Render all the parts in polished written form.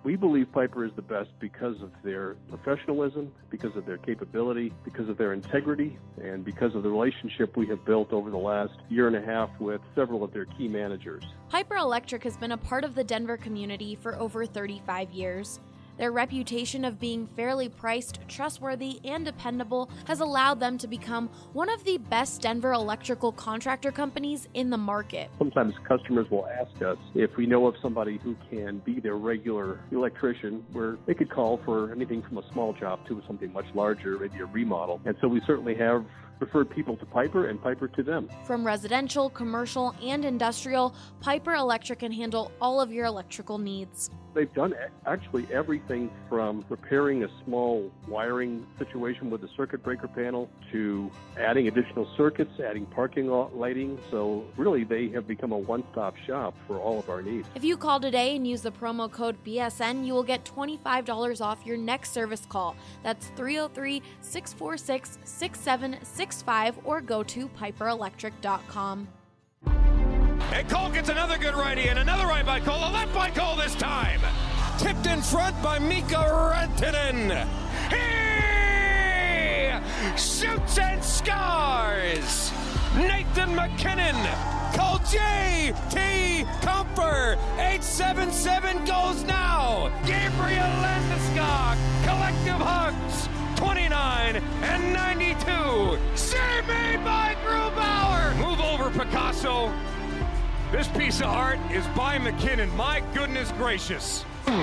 We believe Piper is the best because of their professionalism, because of their capability, because of their integrity, and because of the relationship we have built over the last year and a half with several of their key managers. Piper Electric has been a part of the Denver community for over 35 years. Their reputation of being fairly priced, trustworthy, and dependable has allowed them to become one of the best Denver electrical contractor companies in the market. Sometimes customers will ask us if we know of somebody who can be their regular electrician, where they could call for anything from a small job to something much larger, maybe a remodel. And so we certainly have referred people to Piper and Piper to them. From residential, commercial, and industrial, Piper Electric can handle all of your electrical needs. They've done actually everything from repairing a small wiring situation with a circuit breaker panel to adding additional circuits, adding parking lot lighting. So really, they have become a one-stop shop for all of our needs. If you call today and use the promo code BSN, you will get $25 off your next service call. That's 303-646-6765 or go to piperelectric.com. And Cole gets another good righty and another right by Cole. A left by Cole this time. Tipped in front by Mika Rantanen. He shoots and scores. Nathan McKinnon. Cole J.T. Comfer. 877 goes now. Gabriel Landeskog. Collective hugs. 29 and 92. Save made by Grubauer. Move over, Picasso. This piece of art is by McKinnon. My goodness gracious.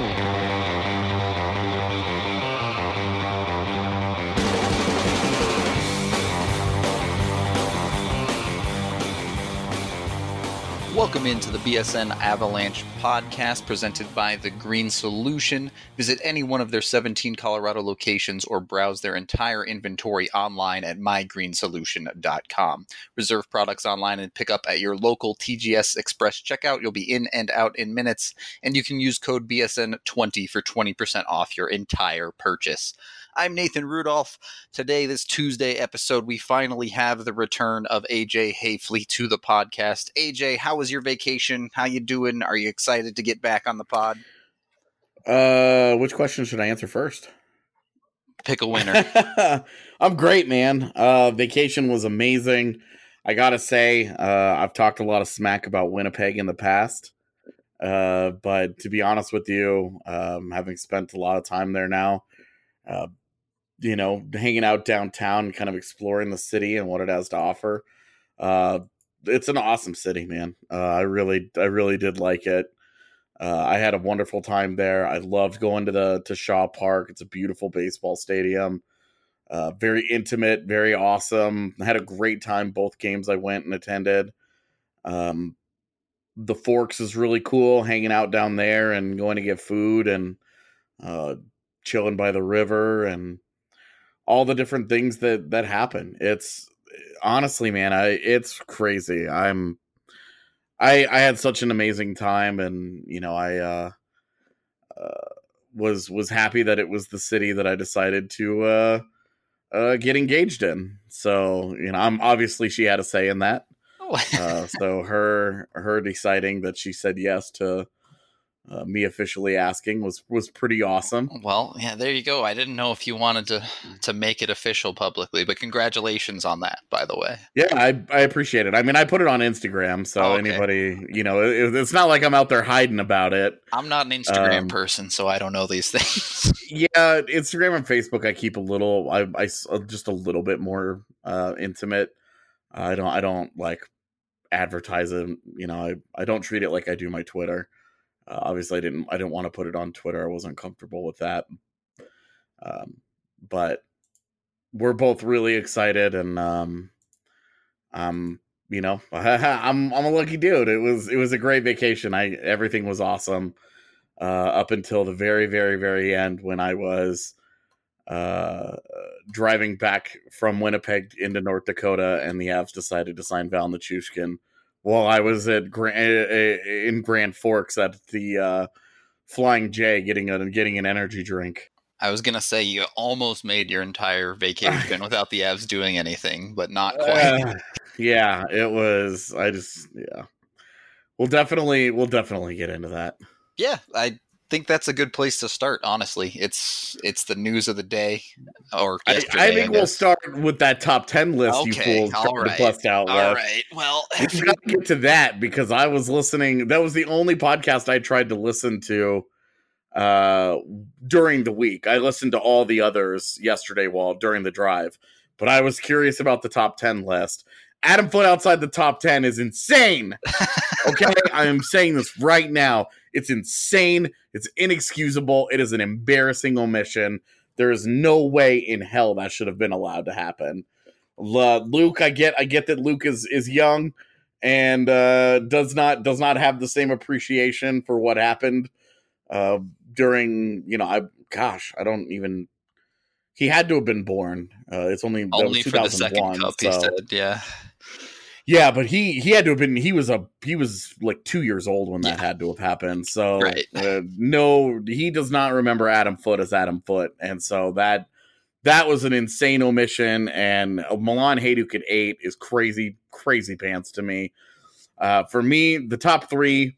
Welcome into the BSN Avalanche podcast presented by The Green Solution. Visit any one of their 17 Colorado locations or browse their entire inventory online at mygreensolution.com. Reserve products online and pick up at your local TGS Express checkout. You'll be in and out in minutes, and you can use code BSN20 for 20% off your entire purchase. I'm Nathan Rudolph. Today, this Tuesday episode, we finally have the return of AJ Hayfley to the podcast. AJ, how was your vacation? How you doing? Are you excited to get back on the pod? Which question should I answer first? Pick a winner. I'm great, man. Vacation was amazing. I gotta say, I've talked a lot of smack about Winnipeg in the past. But to be honest with you, having spent a lot of time there now, hanging out downtown, kind of exploring the city and what it has to offer. It's an awesome city, man. I really did like it. I had a wonderful time there. I loved going to Shaw Park. It's a beautiful baseball stadium. Very intimate, very awesome. I had a great time both games I went and attended. The Forks is really cool, hanging out down there and going to get food and chilling by the river and all the different things that happen. It's honestly, man, it's crazy. I had such an amazing time, and I was happy that it was the city that I decided to get engaged in. So I'm obviously, she had a say in that. So her deciding that she said yes to me officially asking was pretty awesome. Well, yeah, there you go. I didn't know if you wanted to make it official publicly, but congratulations on that, by the way. Yeah, I appreciate it. I mean, I put it on Instagram, so anybody, it's not like I'm out there hiding about it. I'm not an Instagram person, so I don't know these things. Yeah, Instagram and Facebook, I keep I just a little bit more intimate. I don't like advertise it. I don't treat it like I do my Twitter. Obviously, I didn't want to put it on Twitter. I wasn't comfortable with that. But we're both really excited, and I'm a lucky dude. It was a great vacation. Everything was awesome up until the very, very, very end when I was driving back from Winnipeg into North Dakota, and the Avs decided to sign Val Nichushkin. While I was in Grand Forks at the Flying J getting an energy drink. I was going to say you almost made your entire vacation without the Avs doing anything, but not quite. Yeah, it was. We'll definitely get into that. Yeah, I think that's a good place to start, honestly. It's the news of the day. Or I think we'll start with that top 10 list. Okay, you fools tried to bust out with. All right. Well, we got to get to that because I was listening. That was the only podcast I tried to listen to during the week. I listened to all the others yesterday during the drive, but I was curious about the top 10 list. Adam Foote outside the top 10 is insane. Okay, I am saying this right now. It's insane. It's inexcusable. It is an embarrassing omission. There is no way in hell that should have been allowed to happen. Luke, I get that Luke is young and does not have the same appreciation for what happened during, I don't even. He had to have been born. It's only for the second cup. He said, yeah. Yeah, but he had to have been. He was like 2 years old when that had to have happened. So right. No, he does not remember Adam Foote as Adam Foote, and so that was an insane omission. And Milan Hajduk at 8 is crazy pants to me. For me, the top 3,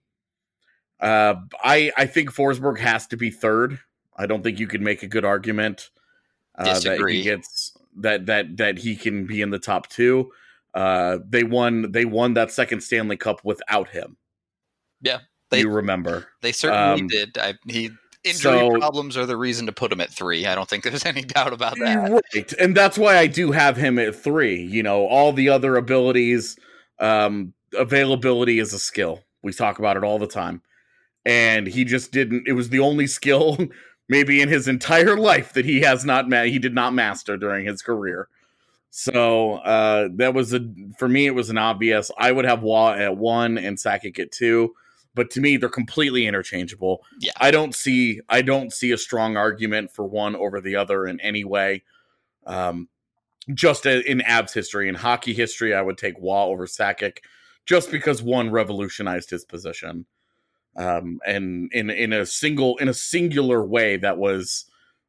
I think Forsberg has to be 3rd. I don't think you could make a good argument that he gets that he can be in the top 2. They won that second Stanley Cup without him. Yeah, you remember? They certainly did. Injury problems are the reason to put him at 3. I don't think there's any doubt about that. Right, and that's why I do have him at 3. All the other abilities, availability is a skill. We talk about it all the time, and he just didn't. It was the only skill, maybe in his entire life, that he did not master during his career. So that was for me, it was an obvious. I would have Waugh at 1 and Sakic at 2, but to me, they're completely interchangeable. Yeah. I don't see a strong argument for one over the other in any way. Just in Avs history, in hockey history, I would take Waugh over Sakic, just because one revolutionized his position, and in a singular way that was.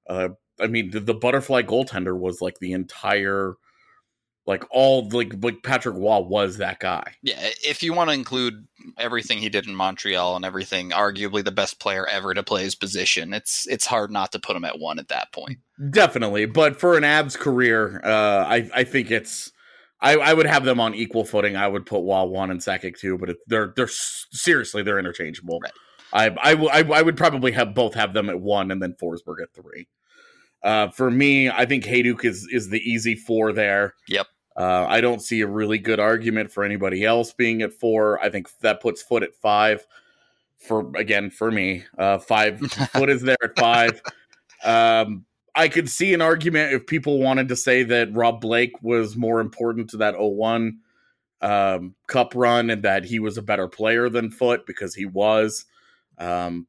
The butterfly goaltender was like the entire. Like Patrick Waugh was that guy. Yeah, if you want to include everything he did in Montreal and everything, arguably the best player ever to play his position, it's hard not to put him at 1 at that point. Definitely, but for an Avs career, I think it's. I would have them on equal footing. I would put Waugh 1 and Sakic 2, but they're seriously they're interchangeable. Right. I would probably have them at 1 and then Forsberg at 3. For me, I think Hajduk is the easy 4 there. Yep. I don't see a really good argument for anybody else being at 4. I think that puts Foote at 5. For me, 5 Foote is there at 5. I could see an argument if people wanted to say that Rob Blake was more important to that 0-1 cup run and that he was a better player than Foote, because he was, and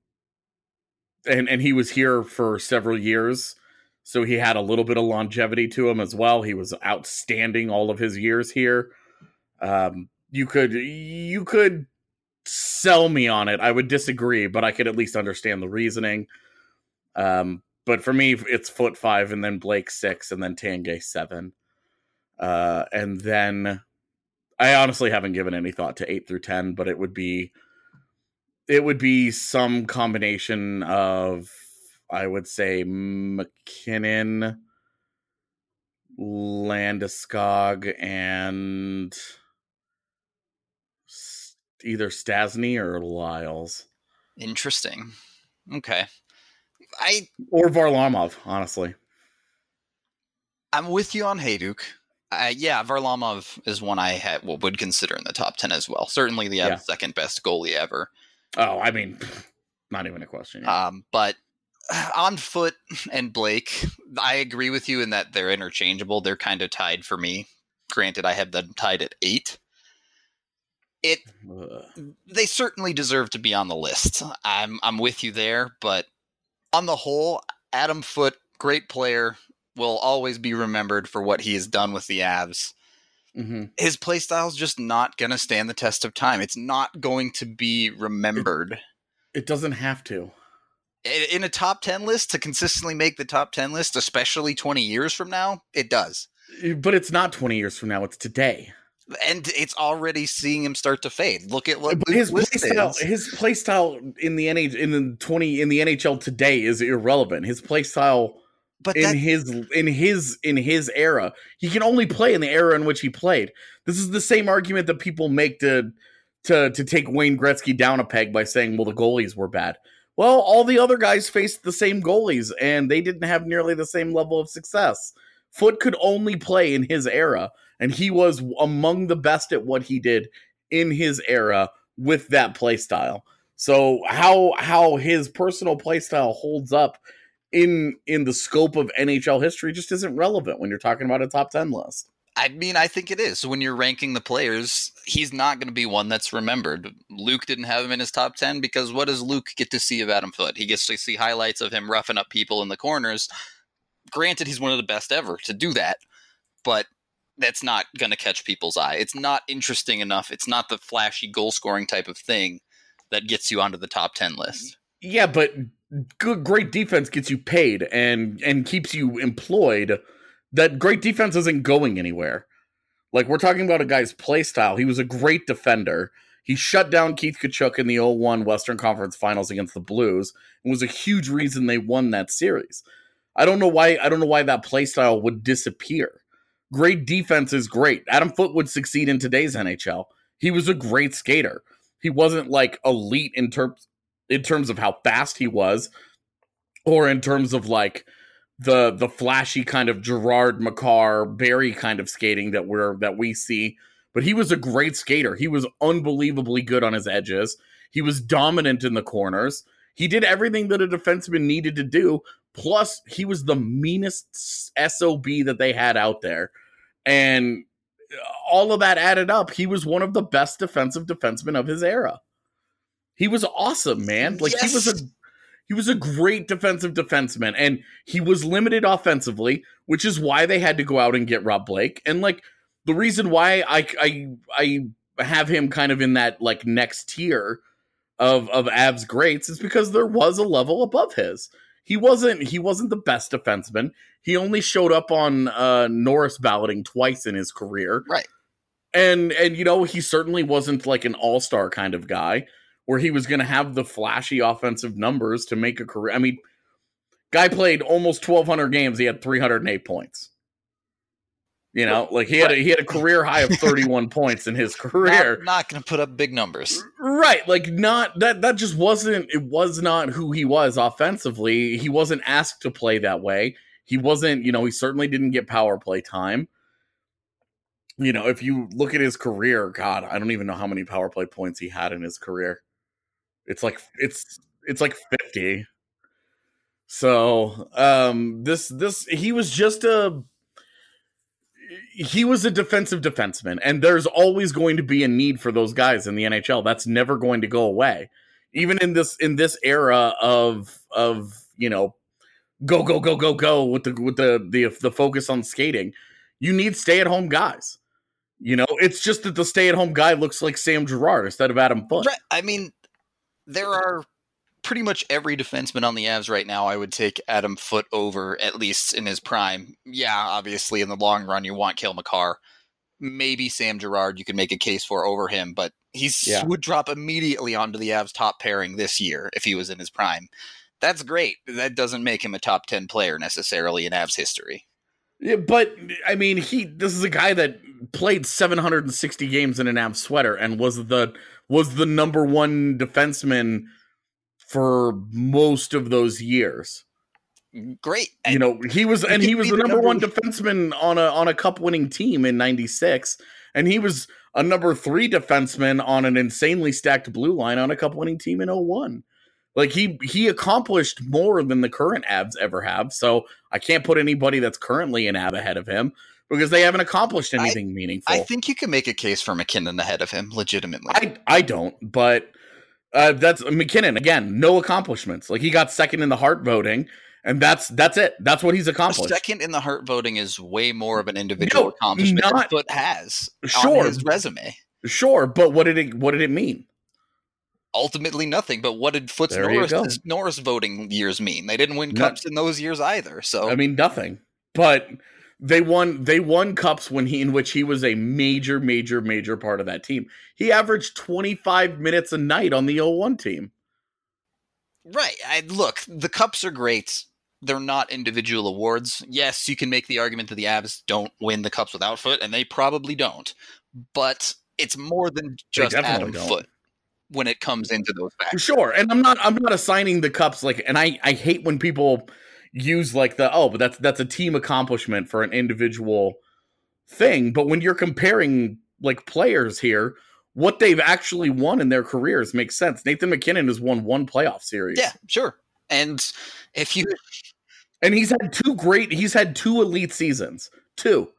he was here for several years. So he had a little bit of longevity to him as well. He was outstanding all of his years here. You could sell me on it. I would disagree, but I could at least understand the reasoning. But for me, it's Foote 5, and then Blake 6, and then Tanguay 7. And then I honestly haven't given any thought to 8 through 10, but it would be some combination of, I would say, McKinnon, Landeskog, and either Stasny or Lyles. Interesting. Okay. Or Varlamov, honestly. I'm with you on Hajduk. Varlamov is one I would consider in the top 10 as well. Certainly the second best goalie ever. Oh, I mean, not even a question. Yeah. But on Foote and Blake, I agree with you in that they're interchangeable. They're kind of tied for me. Granted, I have them tied at 8. They certainly deserve to be on the list. I'm with you there, but on the whole, Adam Foote, great player, will always be remembered for what he has done with the Avs. Mm-hmm. His play style is just not going to stand the test of time. It's not going to be remembered. It doesn't have to. In a top 10 list, to consistently make the top 10 list, especially 20 years from now, it does. But it's not 20 years from now. It's today. And it's already seeing him start to fade. Look at what his play style in the NHL today is irrelevant. His play style in his era, he can only play in the era in which he played. This is the same argument that people make to take Wayne Gretzky down a peg by saying, well, the goalies were bad. Well, all the other guys faced the same goalies, and they didn't have nearly the same level of success. Foote could only play in his era, and he was among the best at what he did in his era with that play style. So how his personal play style holds up in the scope of NHL history just isn't relevant when you're talking about a top 10 list. I mean, I think it is. When you're ranking the players, he's not going to be one that's remembered. Luke didn't have him in his top 10 because what does Luke get to see of Adam Foote? He gets to see highlights of him roughing up people in the corners. Granted, he's one of the best ever to do that, but that's not going to catch people's eye. It's not interesting enough. It's not the flashy goal-scoring type of thing that gets you onto the top 10 list. Yeah, but great defense gets you paid and keeps you employed. That great defense isn't going anywhere. Like, we're talking about a guy's play style. He was a great defender. He shut down Keith Tkachuk in the 0-1 Western Conference Finals against the Blues and was a huge reason they won that series. I don't know why that play style would disappear. Great defense is great. Adam Foote would succeed in today's NHL. He was a great skater. He wasn't like elite in terms of how fast he was, or in terms of like the flashy kind of Gerard, Makar, Barry kind of skating that we see. But he was a great skater. He was unbelievably good on his edges. He was dominant in the corners. He did everything that a defenseman needed to do. Plus, he was the meanest SOB that they had out there. And all of that added up, he was one of the best defensive defensemen of his era. He was awesome, man. Like, yes. He was a great defensive defenseman, and he was limited offensively, which is why they had to go out and get Rob Blake. And like, the reason why I have him kind of in that like next tier of Avs greats is because there was a level above his. He wasn't the best defenseman. He only showed up on Norris balloting twice in his career. Right. And you know, he certainly wasn't like an all-star kind of guy where he was going to have the flashy offensive numbers to make a career. I mean, guy played almost 1,200 games. He had 308 points. You know, like he had a career high of 31 points in his career. Not going to put up big numbers. Right. Like that just wasn't, it was not who he was offensively. He wasn't asked to play that way. He wasn't, you know, he certainly didn't get power play time. You know, if you look at his career, God, I don't even know how many power play points he had in his career. It's like 50. So, he was a defensive defenseman, and there's always going to be a need for those guys in the NHL. That's never going to go away. Even in this era of you know, go with the focus on skating, you need stay-at-home guys. You know, it's just that the stay-at-home guy looks like Sam Girard instead of Adam Foote. Right. I mean, there are pretty much every defenseman on the Avs right now. I would take Adam Foote over, at least in his prime. Yeah, obviously in the long run, you want Cale Makar. Maybe Sam Girard you could make a case for over him, but would drop immediately onto the Avs top pairing this year if he was in his prime. That's great. That doesn't make him a top 10 player necessarily in Avs history. Yeah, but I mean, this is a guy that played 760 games in an Avs sweater and was the number one defenseman for most of those years. Great. You know, he was the number one defenseman on a cup winning team in 96, and he was a number 3 defenseman on an insanely stacked blue line on a cup winning team in 01. Like, he accomplished more than the current Avs ever have, so I can't put anybody that's currently an Av ahead of him because they haven't accomplished anything meaningful. I think you can make a case for McKinnon ahead of him, legitimately. I don't, but that's McKinnon, again, no accomplishments. Like, he got second in the Hart voting, and that's it. That's what he's accomplished. Second in the Hart voting is way more of an individual accomplishment than Foote has on his resume. Sure, but what did it mean? Ultimately nothing, but what did Foote's Norris voting years mean? They didn't win cups in those years either. So I mean, nothing. But They won cups in which he was a major part of that team. He averaged 25 minutes a night on the 01 team. Right. Look, the cups are great. They're not individual awards. Yes, you can make the argument that the Avs don't win the cups without Foote, and they probably don't. But it's more than just Adam Foote when it comes into those factors. Sure, and I'm not assigning the cups and I hate when people use but that's a team accomplishment for an individual thing. But when you're comparing players here, what they've actually won in their careers makes sense. Nathan MacKinnon has won 1 playoff series. Yeah, sure. And he's had 2 elite seasons. 2.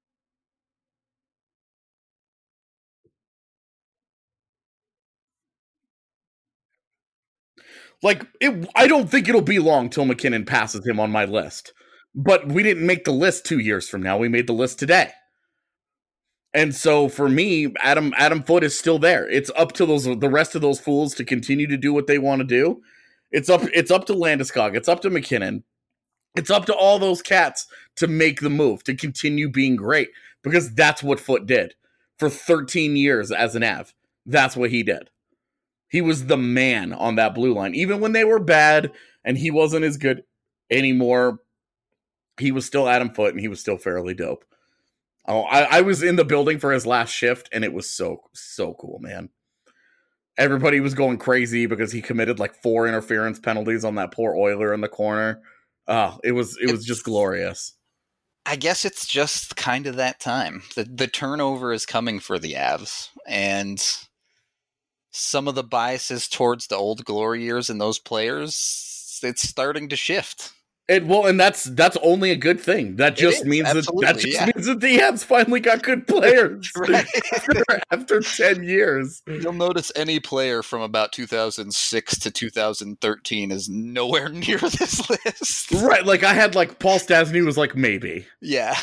I don't think it'll be long till MacKinnon passes him on my list. But we didn't make the list 2 years from now. We made the list today. And so for me, Adam Foote is still there. It's up to the rest of those fools to continue to do what they want to do. It's up to Landeskog. It's up to MacKinnon. It's up to all those cats to make the move, to continue being great. Because that's what Foote did for 13 years as an Av. That's what he did. He was the man on that blue line. Even when they were bad and he wasn't as good anymore, he was still Adam Foote and he was still fairly dope. Oh, I was in the building for his last shift, and it was so cool, man. Everybody was going crazy because he committed 4 interference penalties on that poor Oiler in the corner. Oh, it was just glorious. I guess it's just kind of that time. The turnover is coming for the Avs, and some of the biases towards the old glory years and those players, it's starting to shift. And that's only a good thing. That just means means that the Avs finally got good players after 10 years. You'll notice any player from about 2006 to 2013 is nowhere near this list. Right, I had Paul Stastny was maybe. Yeah,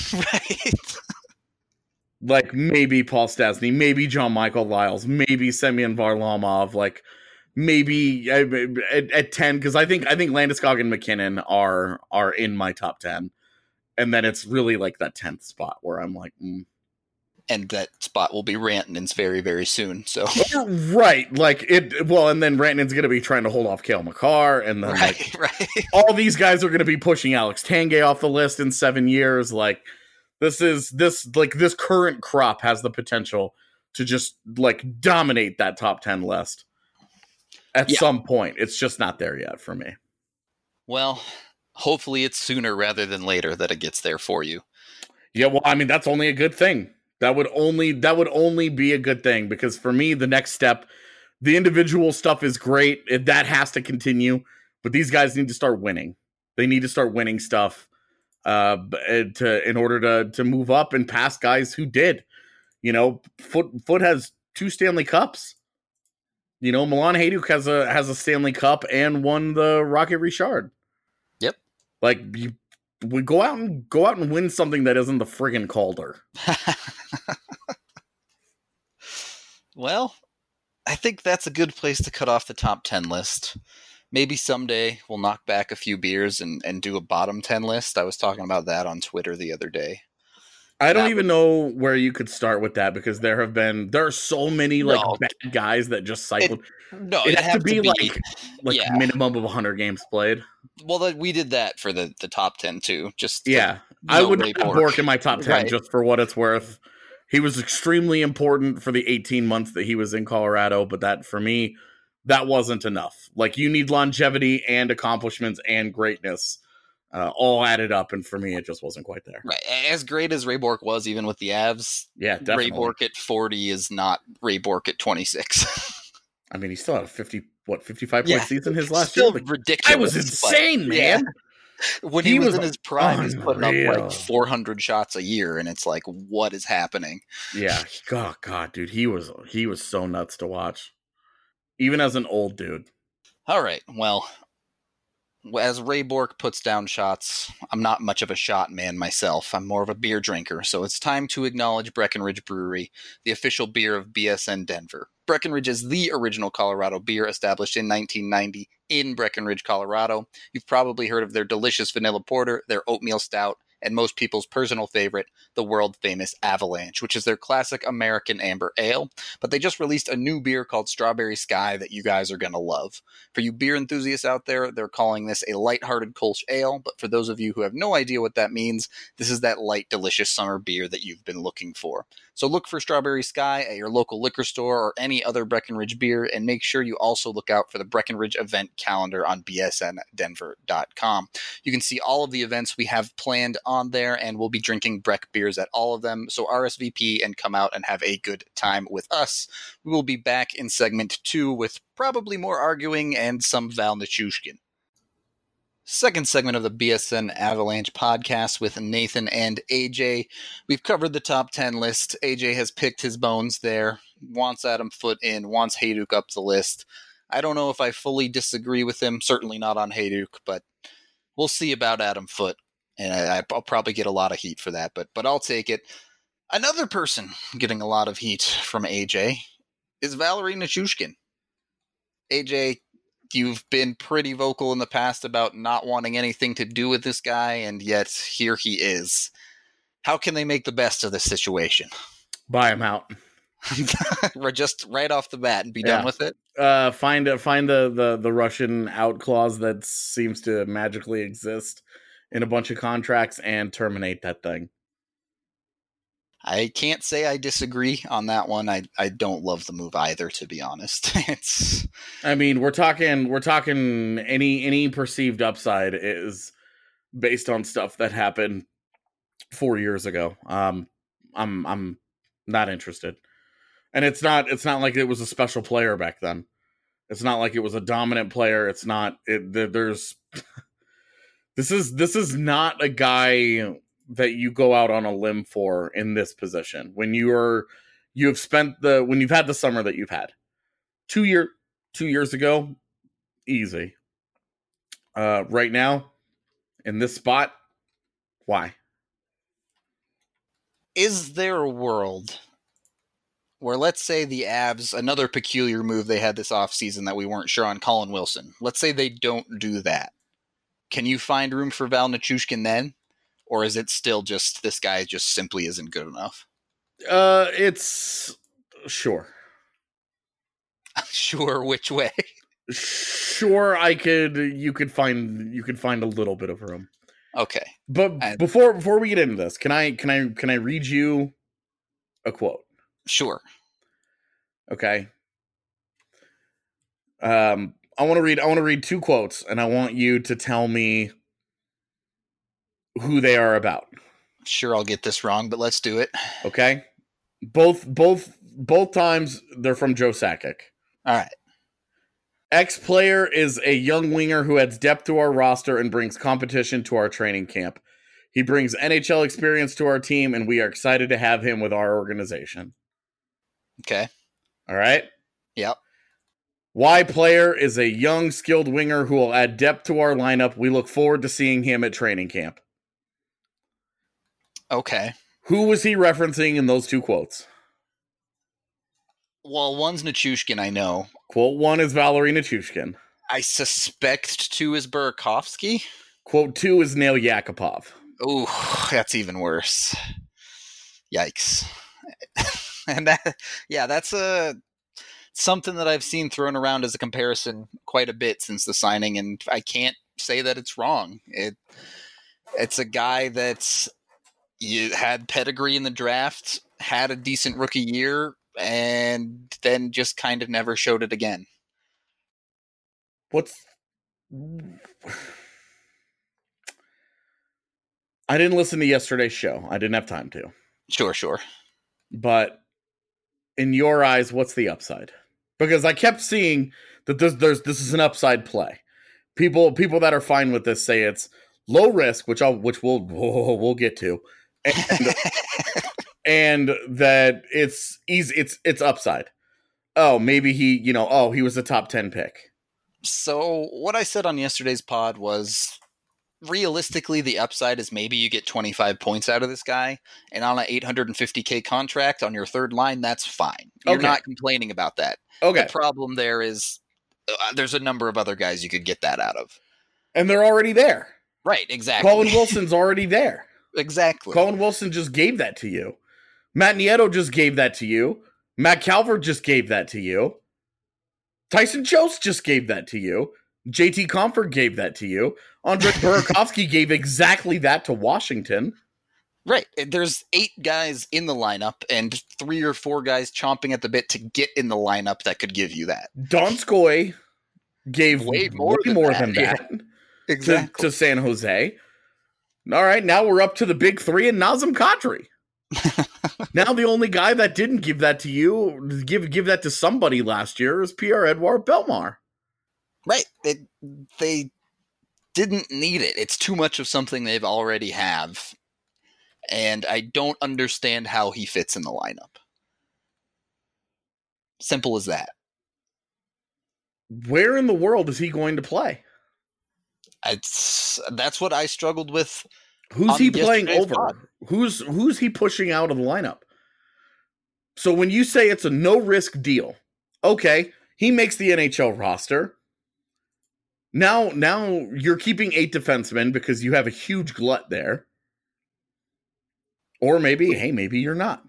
right. Maybe Paul Stastny, maybe John Michael Lyles, maybe Semyon Varlamov, maybe at 10, because I think Landeskog and MacKinnon are in my top 10, and then it's really that 10th spot where I'm and that spot will be Rantanen's very, very soon. So right, and then Rantanen's going to be trying to hold off Cale Makar, and then right. all these guys are going to be pushing Alex Tanguay off the list in 7 years. This current crop has the potential to just dominate that top 10 list. At some point. It's just not there yet for me. Well, hopefully it's sooner rather than later that it gets there for you. Yeah, well, I mean, that's only a good thing. That would only be a good thing, because for me, the next step, the individual stuff is great. That has to continue, but these guys need to start winning. They need to start winning stuff in order to move up and pass guys who did. Foote has 2 Stanley Cups. Milan Hajduk has a Stanley Cup and won the Rocket Richard. Yep. We go out and win something that isn't the friggin' Calder. Well, I think that's a good place to cut off the top 10 list. Maybe someday we'll knock back a few beers and do a bottom 10 list. I was talking about that on Twitter the other day. I don't even know where you could start with that, because there are so many bad guys that just cycled. It has to be minimum of 100 games played. Well, we did that for the top 10 too. I would have Bourque in my top 10 just for what it's worth. He was extremely important for the 18 months that he was in Colorado, but that for me, that wasn't enough. You need longevity and accomplishments and greatness. All added up, and for me, it just wasn't quite there. Right, as great as Ray Bourque was, even with the Avs, definitely. Ray Bourque at 40 is not Ray Bourque at 26. I mean, he still had a 55 point season his last still year. Ridiculous. I was insane, man. When he was in his prime, he's putting up 400 shots a year, and it's what is happening? Yeah, oh god, dude, he was so nuts to watch, even as an old dude. All right, well. As Ray Bourque puts down shots, I'm not much of a shot man myself. I'm more of a beer drinker, so it's time to acknowledge Breckenridge Brewery, the official beer of BSN Denver. Breckenridge is the original Colorado beer, established in 1990 in Breckenridge, Colorado. You've probably heard of their delicious vanilla porter, their oatmeal stout, and most people's personal favorite, the world-famous Avalanche, which is their classic American amber ale. But they just released a new beer called Strawberry Sky that you guys are going to love. For you beer enthusiasts out there, they're calling this a lighthearted Kolsch ale, but for those of you who have no idea what that means, this is that light, delicious summer beer that you've been looking for. So look for Strawberry Sky at your local liquor store or any other Breckenridge beer, and make sure you also look out for the Breckenridge event calendar on bsndenver.com. You can see all of the events we have planned on there, and we'll be drinking Breck beers at all of them, so RSVP and come out and have a good time with us. We will be back in segment 2 with probably more arguing and some Val Nichushkin. Second segment of the BSN Avalanche podcast with Nathan and AJ. We've covered the top 10 list. AJ has picked his bones there, wants Adam Foote in, wants Hejduk up the list. I don't know if I fully disagree with him, certainly not on Hejduk, but we'll see about Adam Foote. And I'll probably get a lot of heat for that, but I'll take it. Another person getting a lot of heat from AJ is Valeri Nichushkin. AJ, you've been pretty vocal in the past about not wanting anything to do with this guy, and yet here he is. How can they make the best of this situation? Buy him out. We're just right off the bat and be done with it? Find the Russian out clause that seems to magically exist in a bunch of contracts and terminate that thing. I can't say I disagree on that one. I don't love the move either, to be honest. I mean, we're talking any perceived upside is based on stuff that happened 4 years ago. I'm not interested. And it's not like it was a special player back then. It's not like it was a dominant player. It's not there's this is not a guy that you go out on a limb for in this position when you've had the summer that you've had. 2 years ago, easy. Right now, in this spot, why? Is there a world where, let's say the Avs, another peculiar move they had this offseason that we weren't sure on, Colin Wilson, let's say they don't do that. Can you find room for Val Nichushkin then? Or is it still just this guy just simply isn't good enough? It's sure. Sure, which way? Sure, you could find a little bit of room. Okay. But before we get into this, can I read you a quote? Sure. Okay. I want to read 2 quotes, and I want you to tell me who they are about. Sure, I'll get this wrong, but let's do it. Okay. Both times they're from Joe Sakic. All right. Ex-player is a young winger who adds depth to our roster and brings competition to our training camp. He brings NHL experience to our team, and we are excited to have him with our organization. Okay. All right. Yep. Y player is a young, skilled winger who will add depth to our lineup. We look forward to seeing him at training camp. Okay. Who was he referencing in those 2 quotes? Well, one's Nichushkin, I know. Quote 1 is Valeri Nichushkin. I suspect 2 is Burakovsky. Quote 2 is Nail Yakupov. Ooh, that's even worse. Yikes. And that's something that I've seen thrown around as a comparison quite a bit since the signing, and I can't say that it's wrong. It's a guy that's had pedigree in the draft, had a decent rookie year, and then just kind of never showed it again. I didn't listen to yesterday's show. I didn't have time to. Sure. But in your eyes, what's the upside? Because I kept seeing that this is an upside play. People that are fine with this say it's low risk, which we'll get to, and that it's easy. It's upside. Oh, maybe he was a top 10 pick. So what I said on yesterday's pod was, realistically, the upside is maybe you get 25 points out of this guy, and on an $850K contract on your third line, that's fine. You're not complaining about that. Okay. The problem there is there's a number of other guys you could get that out of. And they're already there. Right, exactly. Colin Wilson's already there. Exactly. Colin Wilson just gave that to you. Matt Nieto just gave that to you. Matt Calvert just gave that to you. Tyson Jost just gave that to you. JT Comfort gave that to you. Andre Burakovsky gave exactly that to Washington. Right. There's 8 guys in the lineup and 3 or 4 guys chomping at the bit to get in the lineup that could give you that. Donskoy gave way more than that. Exactly. To San Jose. All right, now we're up to the big 3 and Nazem Kadri. Now the only guy that didn't give that to you, give that to somebody last year, is Pierre-Edouard Bellemare. Right. They didn't need it. It's too much of something they've already have. And I don't understand how he fits in the lineup. Simple as that. Where in the world is he going to play? That's what I struggled with. Who's he playing over? Who's he pushing out of the lineup? So when you say it's a no-risk deal, okay, he makes the NHL roster. Now you're keeping 8 defensemen because you have a huge glut there. Or maybe you're not.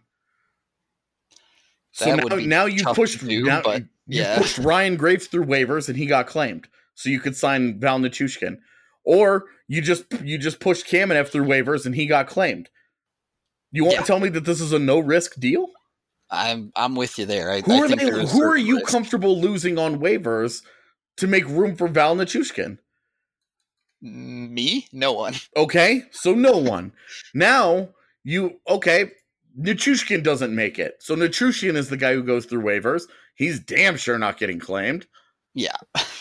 So now you pushed pushed Ryan Graves through waivers and he got claimed. So you could sign Val Nichushkin. Or you just pushed Kamenev through waivers and he got claimed. You want to tell me that this is a no-risk deal? I'm with you there. Who are you comfortable losing on waivers to make room for Val Nichushkin? Me? No one. Okay, so no one. Now, Nichushkin doesn't make it. So Nichushkin is the guy who goes through waivers. He's damn sure not getting claimed. Yeah.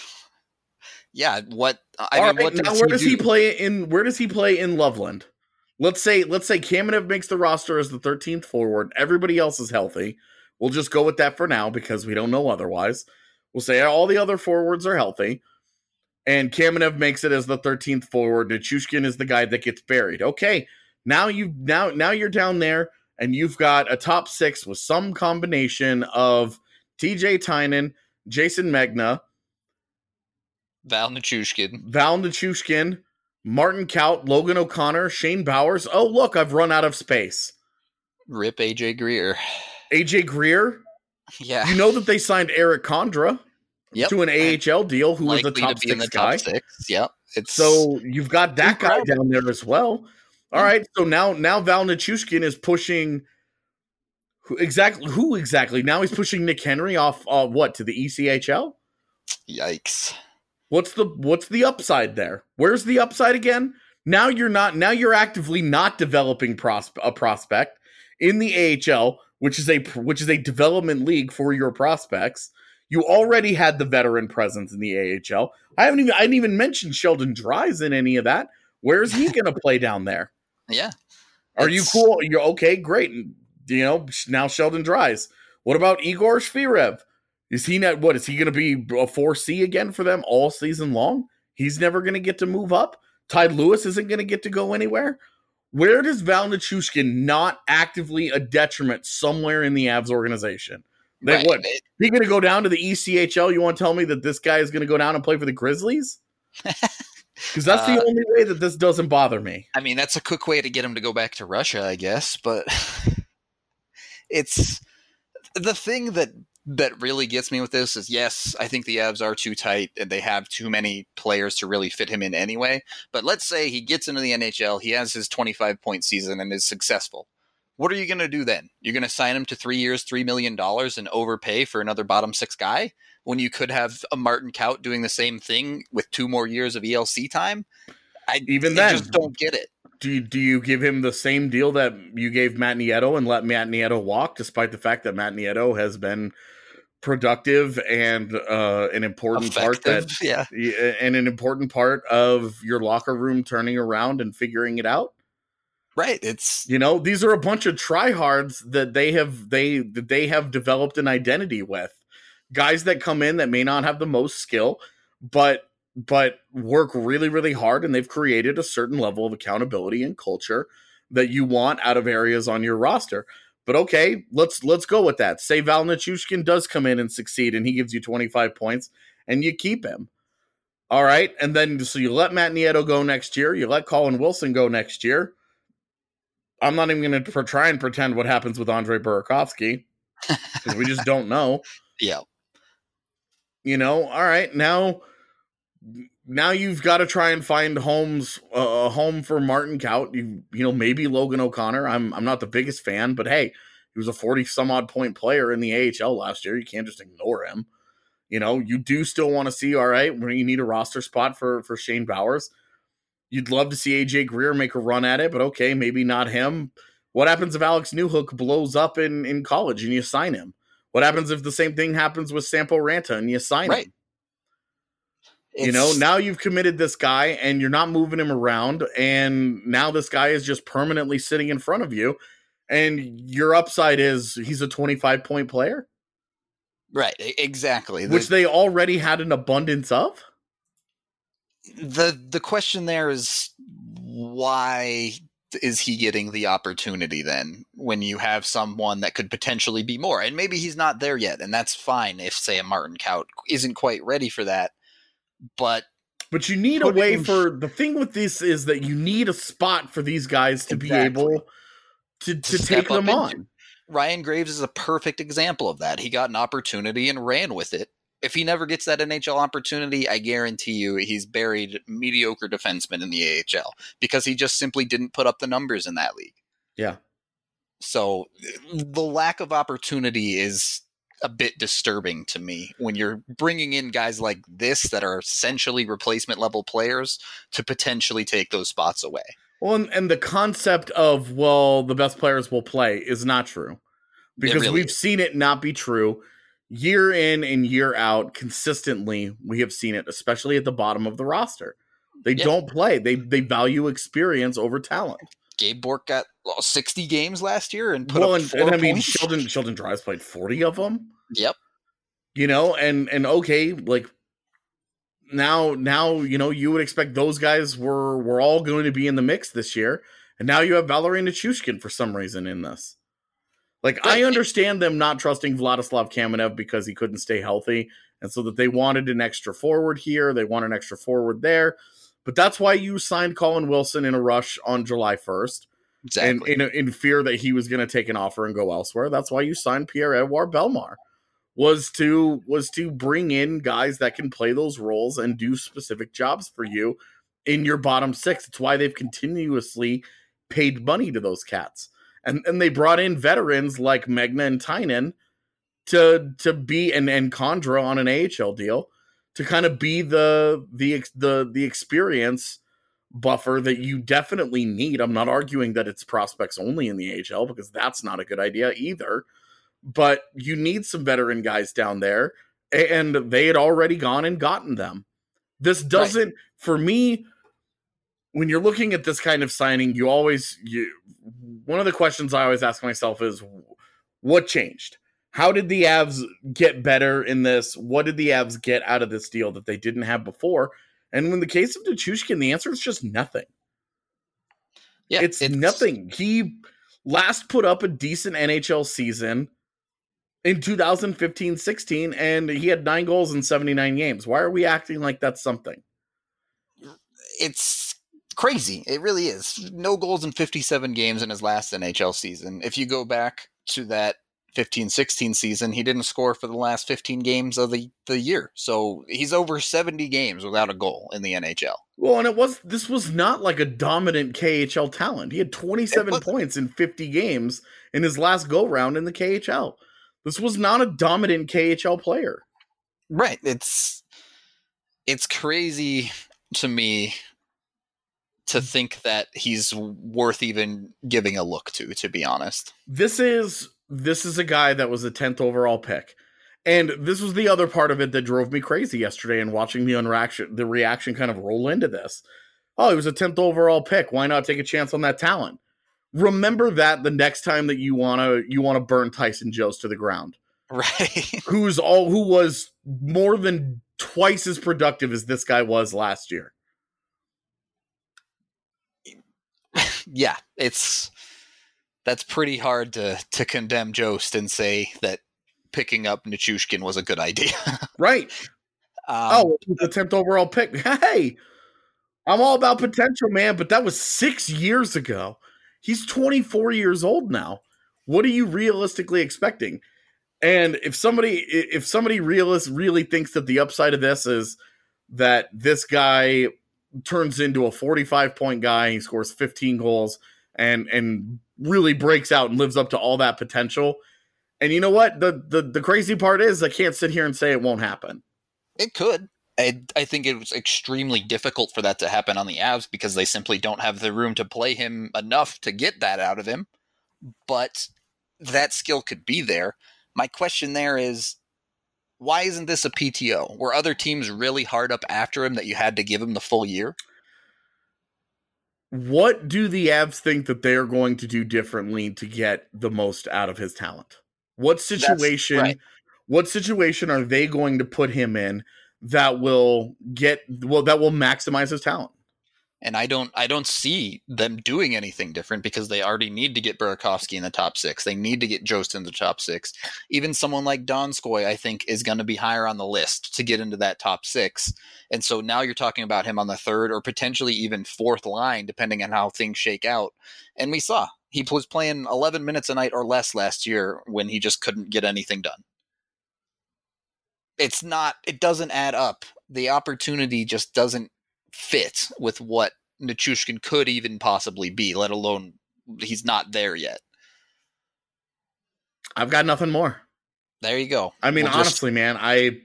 Yeah, where does he play in Loveland? Let's say Kamenev makes the roster as the 13th forward. Everybody else is healthy. We'll just go with that for now because we don't know otherwise. We'll say all the other forwards are healthy. And Kamenev makes it as the 13th forward. Nichushkin is the guy that gets buried. Okay, now you're down there and you've got a top 6 with some combination of TJ Tynan, Jason Megna, Val Nichushkin, Martin Kaut, Logan O'Connor, Shane Bowers. Oh, look, I've run out of space. Rip AJ Greer. AJ Greer? Yeah. You know that they signed Eric Condra to an AHL deal, who was a top 6 guy. Top 6. Yep. So you've got that guy down there as well. All right, so now Val Nichushkin is pushing who exactly? Now he's pushing Nick Henry off to the ECHL? Yikes. What's the upside there? Where's the upside again? Now you're actively not developing a prospect in the AHL, which is a development league for your prospects. You already had the veteran presence in the AHL. I didn't even mention Sheldon Dries in any of that. Where is he going to play down there? Yeah. Are you cool? You're okay, great. Now Sheldon Dries. What about Igor Shvirev? Is he not? What is he going to be a 4C again for them all season long? He's never going to get to move up. Ty Lewis isn't going to get to go anywhere. Where does Val Nichushkin not actively a detriment somewhere in the Avs organization? He going to go down to the ECHL? You want to tell me that this guy is going to go down and play for the Grizzlies? Because that's the only way that this doesn't bother me. I mean, that's a quick way to get him to go back to Russia, I guess. But it's the thing that really gets me with this is, yes, I think the Avs are too tight and they have too many players to really fit him in anyway. But let's say he gets into the NHL, he has his 25-point season and is successful. What are you going to do then? You're going to sign him to 3 years, $3 million and overpay for another bottom 6 guy when you could have a Martin Kaut doing the same thing with 2 more years of ELC time? I just don't get it. Do you give him the same deal that you gave Matt Nieto and let Matt Nieto walk, despite the fact that Matt Nieto has been productive and an important part and an important part of your locker room turning around and figuring it out? Right. It's these are a bunch of tryhards that they have developed an identity with. Guys that come in that may not have the most skill, but work really, really hard, and they've created a certain level of accountability and culture that you want out of areas on your roster. But okay, let's go with that. Say Val Nichushkin does come in and succeed, and he gives you 25 points, and you keep him. All right, and then so you let Matt Nieto go next year, you let Colin Wilson go next year. I'm not even going to try and pretend what happens with Andre Burakovsky because we just don't know. Yeah. All right, now you've got to try and find a home for Martin Kaut. Maybe Logan O'Connor. I'm not the biggest fan, but hey, he was a 40 some odd point player in the AHL last year. You can't just ignore him. You do still want to see, all right, where you need a roster spot for Shane Bowers. You'd love to see AJ Greer make a run at it, but okay, maybe not him. What happens if Alex Newhook blows up in college and you sign him? What happens if the same thing happens with Sampo Ranta and you sign him? Now you've committed this guy and you're not moving him around, and now this guy is just permanently sitting in front of you, and your upside is he's a 25-point player? Right, exactly. Which they already had an abundance of? The question there is, why is he getting the opportunity then when you have someone that could potentially be more? And maybe he's not there yet, and that's fine if, say, a Martin Kaut isn't quite ready for that. But you need a way for the thing with this is that you need a spot for these guys to be able to take them on. Ryan Graves is a perfect example of that. He got an opportunity and ran with it. If he never gets that NHL opportunity, I guarantee you he's buried mediocre defenseman in the AHL because he just simply didn't put up the numbers in that league. Yeah. So the lack of opportunity is a bit disturbing to me when you're bringing in guys like this that are essentially replacement level players to potentially take those spots away. Well, and the concept of, the best players will play is not true, because we've seen it not be true year in and year out. Consistently, we have seen it, especially at the bottom of the roster. They don't play. They value experience over talent. Gabe Bourque got 60 games last year and put up 4 points. Sheldon Dries played 40 of them. Yep. And okay, like now, you would expect those guys were all going to be in the mix this year, and now you have Valeri Nichushkin for some reason in this. Like, I understand them not trusting Vladislav Kamenev because he couldn't stay healthy, and so that they wanted an extra forward here, they want an extra forward there. But that's why you signed Colin Wilson in a rush on July 1st. Exactly. And in fear that he was going to take an offer and go elsewhere. That's why you signed Pierre-Edouard Bellemare, was to bring in guys that can play those roles and do specific jobs for you in your bottom six. It's why they've continuously paid money to those cats. And they brought in veterans like Megna and Tynan to be, and Condra on an AHL deal, to kind of be the experience buffer that you definitely need. I'm not arguing that it's prospects only in the AHL, because that's not a good idea either. But you need some veteran guys down there, and they had already gone and gotten them. This doesn't, for me, when you're looking at this kind of signing, one of the questions I always ask myself is, what changed? How did the Avs get better in this? What did the Avs get out of this deal that they didn't have before? And in the case of Nichushkin, the answer is just nothing. Yeah, it's nothing. He last put up a decent NHL season in 2015-16, and he had 9 goals in 79 games. Why are we acting like that's something? It's crazy. It really is. No goals in 57 games in his last NHL season. If you go back to that 15-16 season, he didn't score for the last 15 games of the year. So he's over 70 games without a goal in the NHL. Well, and this was not like a dominant KHL talent. He had 27 points in 50 games in his last go-round in the KHL. This was not a dominant KHL player. Right. It's crazy to me to think that he's worth even giving a look to be honest. This is a guy that was a 10th overall pick. And this was the other part of it that drove me crazy yesterday, and watching the reaction kind of roll into this. Oh, he was a 10th overall pick. Why not take a chance on that talent? Remember that the next time that you want to burn Tyson Jost to the ground. Right. Who was more than twice as productive as this guy was last year. Yeah, that's pretty hard to condemn Jost and say that picking up Nichushkin was a good idea. Right. The 10th overall pick. Hey, I'm all about potential, man, but that was 6 years ago. He's 24 years old now. What are you realistically expecting? And if somebody really thinks that the upside of this is that this guy turns into a 45-point guy, he scores 15 goals and really breaks out and lives up to all that potential. And you know what? The crazy part is I can't sit here and say it won't happen. It could. I think it was extremely difficult for that to happen on the Avs because they simply don't have the room to play him enough to get that out of him. But that skill could be there. My question there is, why isn't this a PTO? Were other teams really hard up after him that you had to give him the full year? What do the Avs think that they're going to do differently to get the most out of his talent? What situation are they going to put him in that will maximize his talent? And I don't see them doing anything different because they already need to get Burakovsky in the top 6. They need to get Jost in the top 6. Even someone like Donskoy, I think, is going to be higher on the list to get into that top 6. And so now you're talking about him on the 3rd or potentially even 4th line, depending on how things shake out. And we saw he was playing 11 minutes a night or less last year when he just couldn't get anything done. It doesn't add up. The opportunity just doesn't fit with what Nichushkin could even possibly be, let alone he's not there yet. I've got nothing more. There you go. I mean, honestly, man, I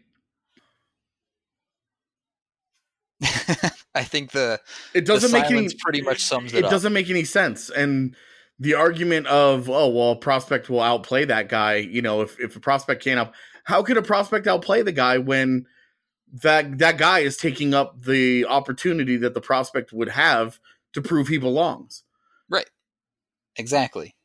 think it doesn't make any pretty much sums it up. It doesn't make any sense. And the argument of, oh, well, a prospect will outplay that guy, if a prospect can't how could a prospect outplay the guy when that guy is taking up the opportunity that the prospect would have to prove he belongs? Right. Exactly.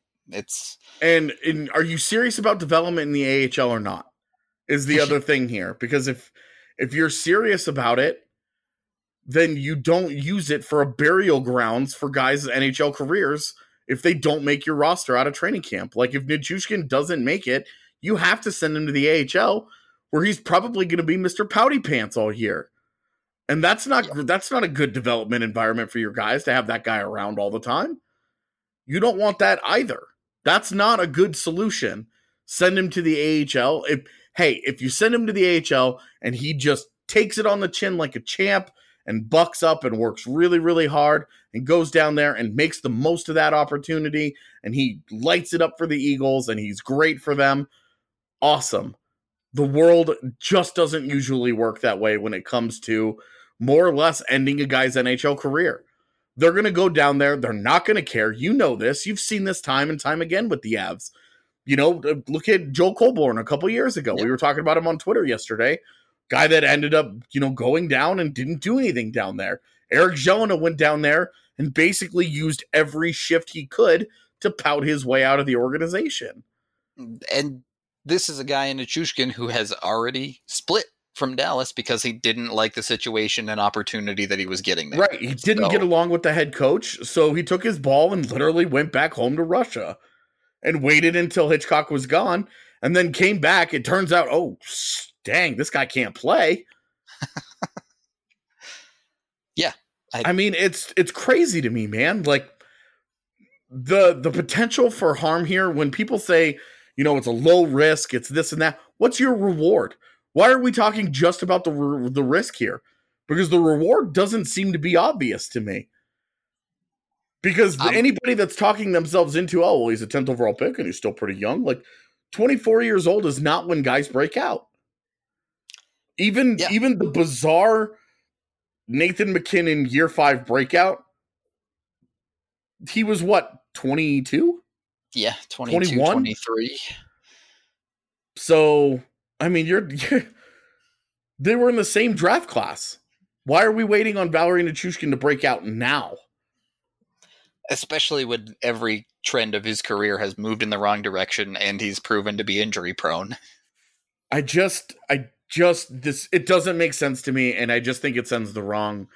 And are you serious about development in the AHL or not? Is the other thing here. Because if you're serious about it, then you don't use it for a burial grounds for guys' NHL careers if they don't make your roster out of training camp. Like if Nichushkin doesn't make it, you have to send him to the AHL where he's probably going to be Mr. Pouty Pants all year. And that's not a good development environment for your guys to have that guy around all the time. You don't want that either. That's not a good solution. Send him to the AHL. If you send him to the AHL and he just takes it on the chin like a champ and bucks up and works really, really hard and goes down there and makes the most of that opportunity and he lights it up for the Eagles and he's great for them, awesome. The world just doesn't usually work that way when it comes to more or less ending a guy's NHL career. They're going to go down there. They're not going to care. You know this. You've seen this time and time again with the Avs. Look at Joel Colborne a couple years ago. Yep. We were talking about him on Twitter yesterday. Guy that ended up, going down and didn't do anything down there. Eric Jelena went down there and basically used every shift he could to pout his way out of the organization. And this is a guy in Nichushkin who has already split from Dallas because he didn't like the situation and opportunity that he was getting there. Right. He didn't get along with the head coach, so he took his ball and literally went back home to Russia and waited until Hitchcock was gone and then came back. It turns out, oh, dang, this guy can't play. Yeah. I mean, it's crazy to me, man. Like the potential for harm here when people say, it's a low risk, it's this and that. What's your reward? Why are we talking just about the risk here? Because the reward doesn't seem to be obvious to me. Because anybody that's talking themselves into, oh, well, he's a 10th overall pick and he's still pretty young. Like 24 years old is not when guys break out. Even the bizarre Nathan McKinnon year 5 breakout, he was what, 22? Yeah, 22, 21? 23. So, I mean, they were in the same draft class. Why are we waiting on Valeri Nichushkin to break out now? Especially when every trend of his career has moved in the wrong direction and he's proven to be injury prone. It doesn't make sense to me, and I just think it sends the wrong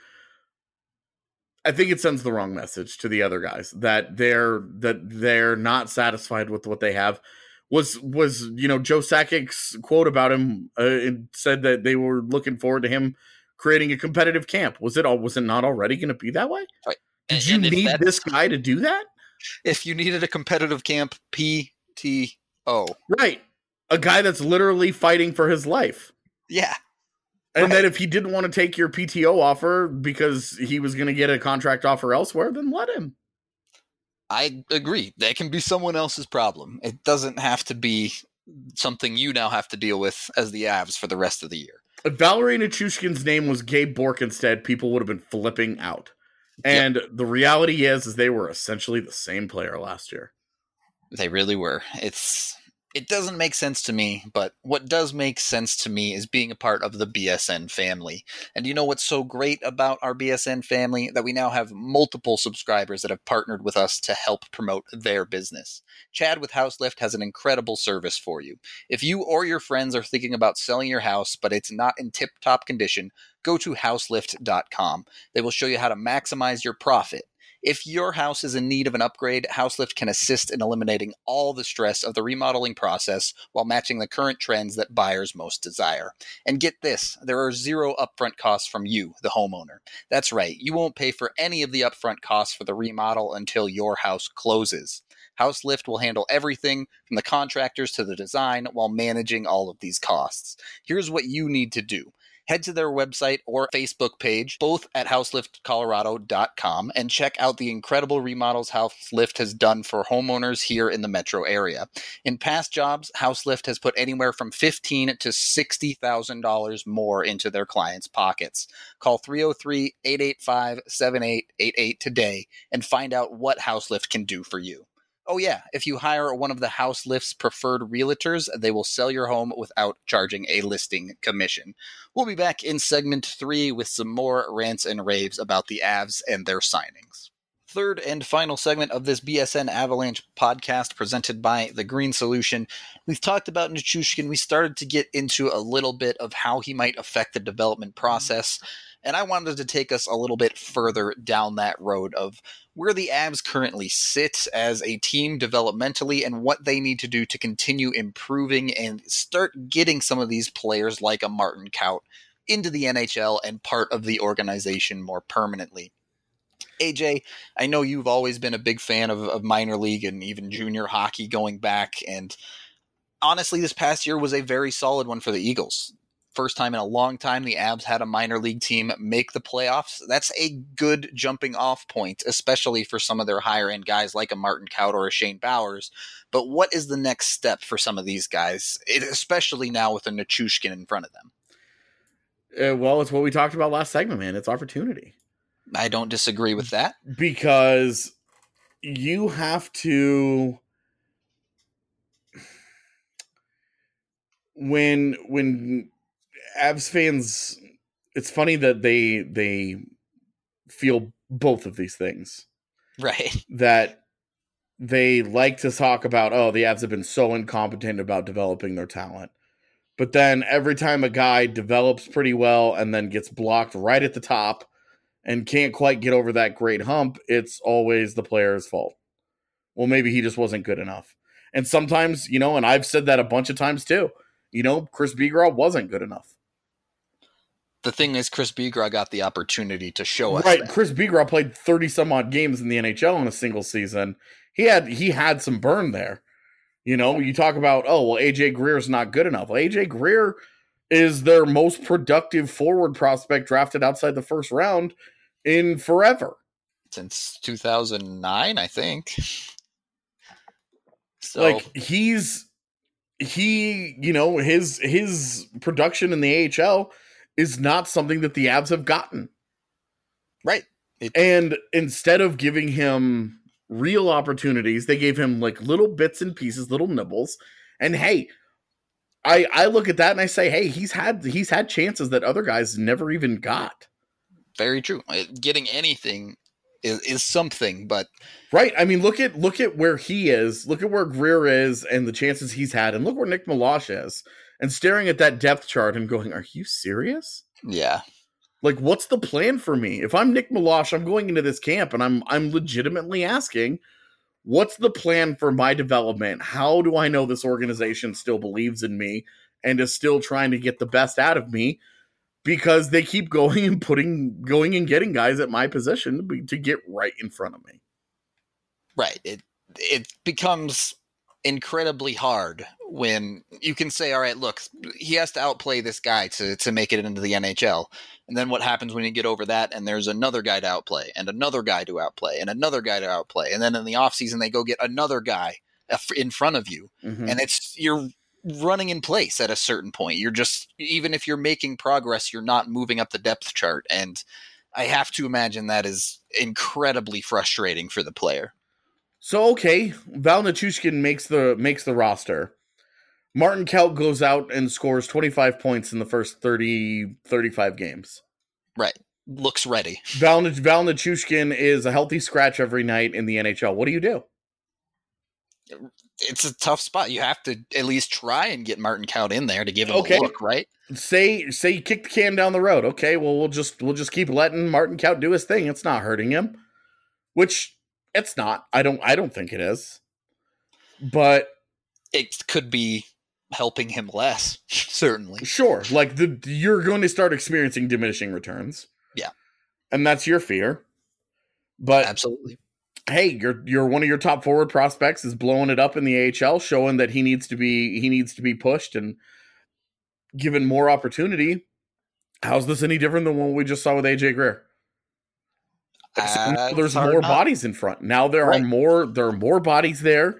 message to the other guys that they're not satisfied with what they have. Was Joe Sakic's quote about him it said that they were looking forward to him creating a competitive camp. Was it not already going to be that way? Right. Did you need this guy to do that? If you needed a competitive camp, PTO. Right. A guy that's literally fighting for his life. Yeah. And then if he didn't want to take your PTO offer because he was going to get a contract offer elsewhere, then let him. I agree. That can be someone else's problem. It doesn't have to be something you now have to deal with as the Avs for the rest of the year. If Valerie Nichushkin's name was Gabe Bork instead, people would have been flipping out. And the reality is they were essentially the same player last year. They really were. It doesn't make sense to me, but what does make sense to me is being a part of the BSN family. And you know what's so great about our BSN family? That we now have multiple subscribers that have partnered with us to help promote their business. Chad with HouseLift has an incredible service for you. If you or your friends are thinking about selling your house, but it's not in tip-top condition, go to houselift.com. They will show you how to maximize your profit. If your house is in need of an upgrade, HouseLift can assist in eliminating all the stress of the remodeling process while matching the current trends that buyers most desire. And get this, there are zero upfront costs from you, the homeowner. That's right, you won't pay for any of the upfront costs for the remodel until your house closes. HouseLift will handle everything from the contractors to the design while managing all of these costs. Here's what you need to do. Head to their website or Facebook page, both at houseliftcolorado.com, and check out the incredible remodels HouseLift has done for homeowners here in the metro area. In past jobs, HouseLift has put anywhere from $15,000 to $60,000 more into their clients' pockets. Call 303-885-7888 today and find out what HouseLift can do for you. Oh yeah, if you hire one of the HouseLift's preferred realtors, they will sell your home without charging a listing commission. We'll be back in segment 3 with some more rants and raves about the Avs and their signings. Third and final segment of this BSN Avalanche podcast presented by The Green Solution. We've talked about Nichushkin. We started to get into a little bit of how he might affect the development process. And I wanted to take us a little bit further down that road of where the Avs currently sit as a team developmentally and what they need to do to continue improving and start getting some of these players like a Martin Kaut into the NHL and part of the organization more permanently. AJ, I know you've always been a big fan of minor league and even junior hockey going back. And honestly, this past year was a very solid one for the Eagles. First time in a long time the Avs had a minor league team make the playoffs. That's a good jumping off point, especially for some of their higher end guys like a Martin Kaut or a Shane Bowers. But what is the next step for some of these guys, especially now with a Nichushkin in front of them? Well, it's what we talked about last segment, man. It's opportunity. I don't disagree with that. Because you have to... When Avs fans, it's funny that they feel both of these things. Right. That they like to talk about, oh, the Avs have been so incompetent about developing their talent. But then every time a guy develops pretty well and then gets blocked right at the top and can't quite get over that great hump, it's always the player's fault. Well, maybe he just wasn't good enough. And sometimes, and I've said that a bunch of times too, Chris Bigras wasn't good enough. The thing is, Chris Bigras got the opportunity to show us. Right, that. Chris Bigras played 30 some odd games in the NHL in a single season. He had some burn there. You talk about, AJ Greer's not good enough. Well, AJ Greer is their most productive forward prospect drafted outside the first round in forever. Since 2009, I think. So his production in the AHL is not something that the Avs have gotten. Right. And instead of giving him real opportunities, they gave him little bits and pieces, little nibbles. And hey, I look at that and I say, hey, he's had chances that other guys never even got. Very true. Getting anything is something, but right. I mean, look at where he is. Look at where Greer is and the chances he's had, and look where Nick Meloche is. And staring at that depth chart and going, "Are you serious?" Yeah. What's the plan for me? If I'm Nick Meloche, I'm going into this camp, and I'm legitimately asking, what's the plan for my development? How do I know this organization still believes in me and is still trying to get the best out of me? Because they keep going and getting guys at my position to get right in front of me. Right. It becomes incredibly hard when you can say, all right, look, he has to outplay this guy to make it into the NHL. And then what happens when you get over that and there's another guy to outplay and another guy to outplay and another guy to outplay. And then in the offseason, they go get another guy in front of you. Mm-hmm. And you're running in place at a certain point. You're just, even if you're making progress, you're not moving up the depth chart. And I have to imagine that is incredibly frustrating for the player. So, okay, Val Nichushkin makes the roster. Martin Kaut goes out and scores 25 points in the first 35 games. Right. Looks ready. Val Nichushkin is a healthy scratch every night in the NHL. What do you do? It's a tough spot. You have to at least try and get Martin Kaut in there to give him a look, right? Say you kick the can down the road. Okay, well we'll just keep letting Martin Kaut do his thing. It's not hurting him. Which it's not. I don't think it is. But it could be helping him less, certainly. Sure. Like you're going to start experiencing diminishing returns. Yeah. And that's your fear. But absolutely. Hey, you're one of your top forward prospects is blowing it up in the AHL, showing that he needs to be pushed and given more opportunity. How's this any different than what we just saw with AJ Greer? There's more bodies in front. Now there are more bodies there.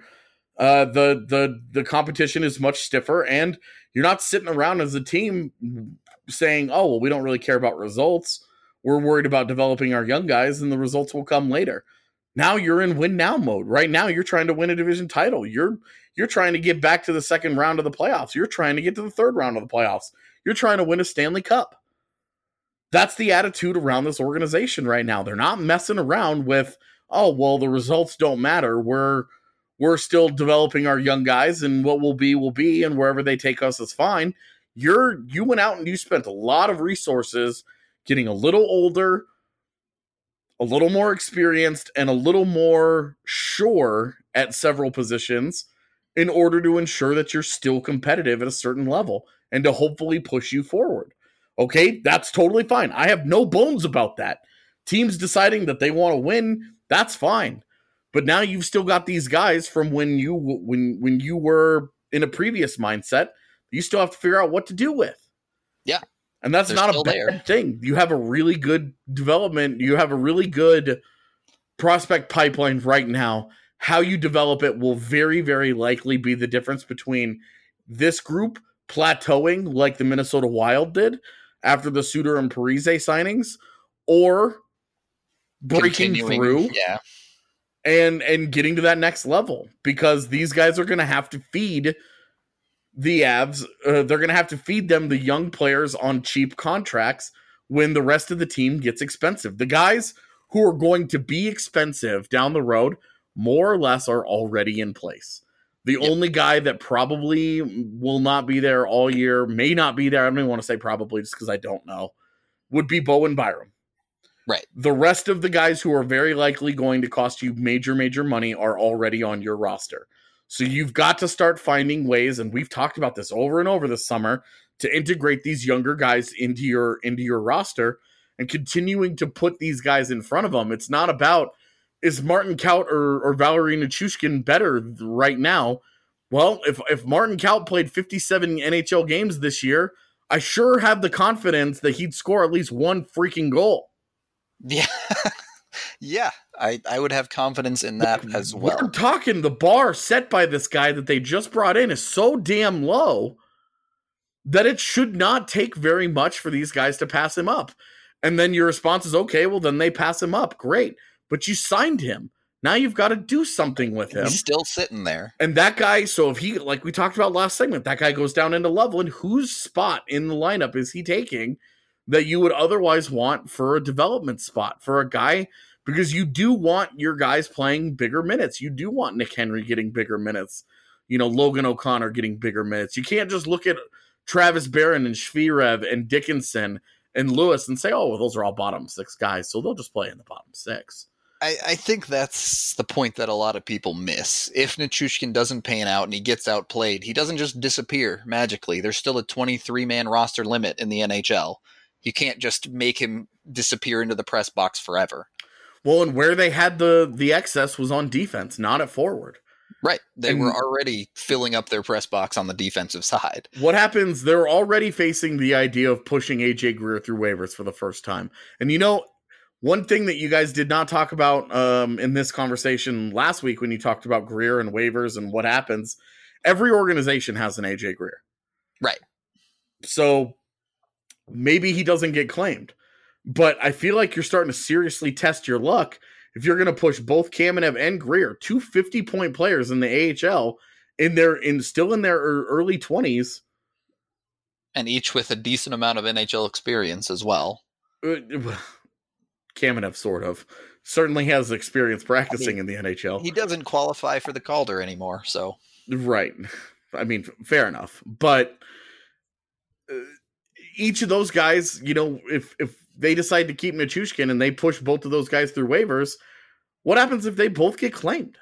The competition is much stiffer, and you're not sitting around as a team saying, "Oh, well, we don't really care about results. We're worried about developing our young guys, and the results will come later." Now you're in win now mode. Right now, you're trying to win a division title. You're trying to get back to the second round of the playoffs. You're trying to get to the third round of the playoffs. You're trying to win a Stanley Cup. That's the attitude around this organization right now. They're not messing around with, "Oh, well, the results don't matter. We're still developing our young guys, and what will be, and wherever they take us is fine." You went out and you spent a lot of resources getting a little older, a little more experienced, and a little more sure at several positions in order to ensure that you're still competitive at a certain level and to hopefully push you forward. Okay, that's totally fine. I have no bones about that. Teams deciding that they want to win, that's fine. But now you've still got these guys from when you were in a previous mindset. You still have to figure out what to do with. Yeah. And that's not a bad thing. You have a really good development. You have a really good prospect pipeline right now. How you develop it will very, very likely be the difference between this group plateauing like the Minnesota Wild did after the Suter and Parise signings, or breaking through and getting to that next level, because these guys are going to have to feed the Avs. They're going to have to feed them the young players on cheap contracts when the rest of the team gets expensive. The guys who are going to be expensive down the road, more or less, are already in place. The only guy that probably will not be there all year, may not be there, I don't even want to say probably just because I don't know, would be Bowen Byram. Right. The rest of the guys who are very likely going to cost you major, major money are already on your roster. So you've got to start finding ways, and we've talked about this over and over this summer, to integrate these younger guys into your roster and continuing to put these guys in front of them. It's not about, is Martin Kaut or Valeri Nichushkin better right now? Well, if Martin Kaut played 57 NHL games this year, I sure have the confidence that he'd score at least one freaking goal. Yeah. Yeah, I would have confidence in that as well. We're talking the bar set by this guy that they just brought in is so damn low that it should not take very much for these guys to pass him up. And then your response is, okay, well, then they pass him up. Great. But you signed him. Now you've got to do something with him. He's still sitting there. And that guy, so if he, like we talked about last segment, that guy goes down into Loveland, whose spot in the lineup is he taking that you would otherwise want for a development spot for a guy? Because you do want your guys playing bigger minutes. You do want Nick Henry getting bigger minutes. You know, Logan O'Connor getting bigger minutes. You can't just look at Travis Barron and Shvirev and Dickinson and Lewis and say, oh, well, those are all bottom six guys, so they'll just play in the bottom six. I think that's the point that a lot of people miss. If Nichushkin doesn't pan out and he gets outplayed, he doesn't just disappear magically. There's still a 23-man roster limit in the NHL. You can't just make him disappear into the press box forever. Well, and where they had the excess was on defense, not at forward. Right. They were already filling up their press box on the defensive side. What happens, they're already facing the idea of pushing AJ Greer through waivers for the first time. And one thing that you guys did not talk about in this conversation last week when you talked about Greer and waivers and what happens, every organization has an AJ Greer. Right. So maybe he doesn't get claimed. But I feel like you're starting to seriously test your luck if you're going to push both Kamenev and Greer, two 50-point players in the AHL, still in their early 20s. And each with a decent amount of NHL experience as well. Kamenev sort of. Certainly has experience practicing in the NHL. He doesn't qualify for the Calder anymore, so. Right. I mean, fair enough. But each of those guys, if they decide to keep Nichushkin and they push both of those guys through waivers, what happens if they both get claimed?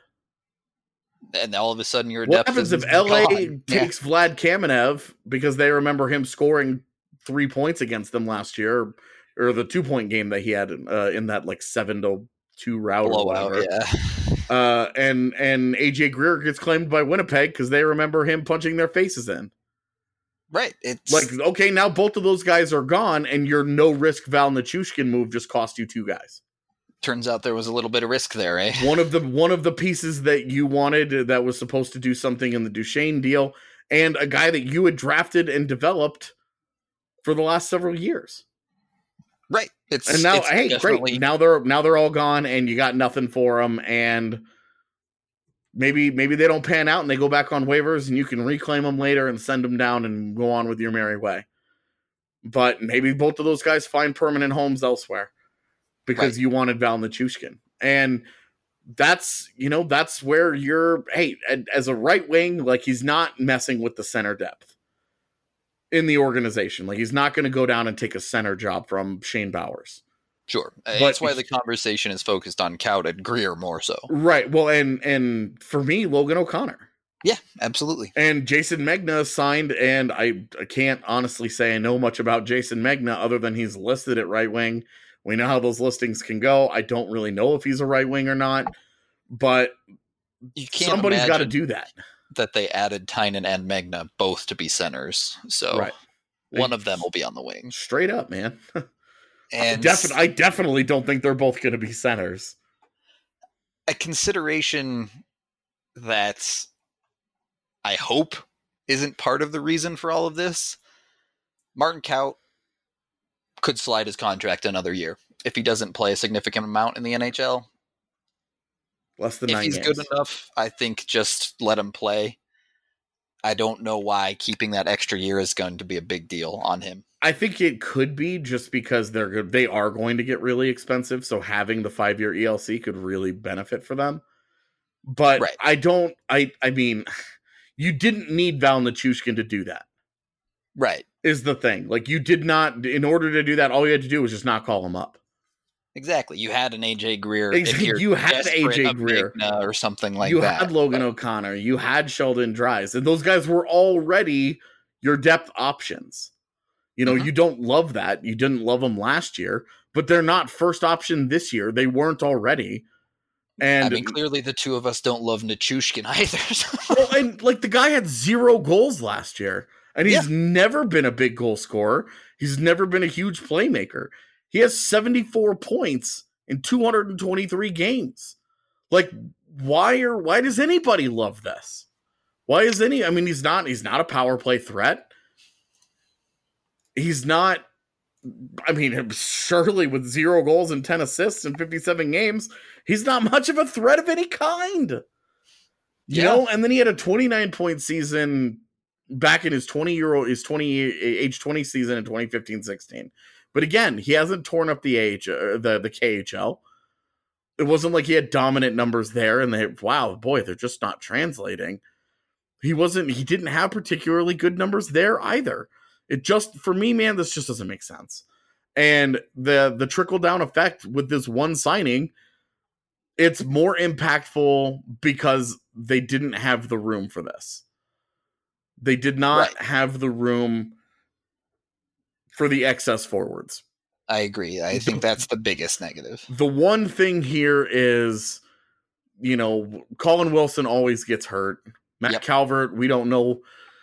And all of a sudden your What depth happens if LA takes Vlad Kamenev because they remember him scoring 3 points against them last year, or the 2-point game that he had in that 7-2 route blowout, or whatever. And AJ Greer gets claimed by Winnipeg because they remember him punching their faces in. Right. It's okay, now both of those guys are gone, and your no-risk Val Nichushkin move just cost you 2 guys. Turns out there was a little bit of risk there, eh? One of the pieces that you wanted that was supposed to do something in the Duchesne deal, and a guy that you had drafted and developed for the last several years. Right. And now, great. Now they're all gone, and you got nothing for them, and maybe they don't pan out and they go back on waivers and you can reclaim them later and send them down and go on with your merry way. But maybe both of those guys find permanent homes elsewhere because you wanted Val Nichushkin. And that's where you're, as a right wing, he's not messing with the center depth in the organization. He's not going to go down and take a center job from Shane Bowers. Sure. That's why the conversation is focused on Kaut and Greer more so. Right. Well, and for me, Logan O'Connor. Yeah, absolutely. And Jason Megna signed, and I can't honestly say I know much about Jason Megna other than he's listed at right wing. We know how those listings can go. I don't really know if he's a right wing or not, but somebody's got to do that. That they added Tynan and Megna both to be centers. So one of them will be on the wing. Straight up, man. And I definitely don't think they're both going to be centers. A consideration that I hope isn't part of the reason for all of this. Martin Kaut could slide his contract another year if he doesn't play a significant amount in the NHL. Less than 9 games. If he's good enough, I think just let him play. I don't know why keeping that extra year is going to be a big deal on him. I think it could be just because they are going to get really expensive, so having the 5-year ELC could really benefit for them. But I mean, you didn't need Val Nichushkin to do that. Right. Is the thing. You did not, in order to do that, all you had to do was just not call him up. Exactly. You had an AJ Greer. You had AJ Greer. Or something like that. You had Logan O'Connor. You had Sheldon Dries. And those guys were already your depth options. You don't love that. You didn't love them last year, but they're not first option this year. They weren't already. And I mean, clearly the two of us don't love Nichushkin either. Well, and the guy had 0 goals last year, and he's never been a big goal scorer. He's never been a huge playmaker. He has 74 points in 223 games. Why does anybody love this? Why is I mean, he's not a power play threat. He's not, I mean, surely with 0 goals and 10 assists in 57 games, he's not much of a threat of any kind. You know, and then he had a 29-point season back in his age 20 season in 2015-16. But again, he hasn't torn up the KHL. It wasn't like he had dominant numbers there and they're just not translating. He didn't have particularly good numbers there either. It just, for me, man, this just doesn't make sense. And the trickle-down effect with this one signing, it's more impactful because they didn't have the room for this. They did not have the room for the excess forwards. I agree. I think that's the biggest negative. The one thing here is, Colin Wilson always gets hurt. Matt Calvert, we don't know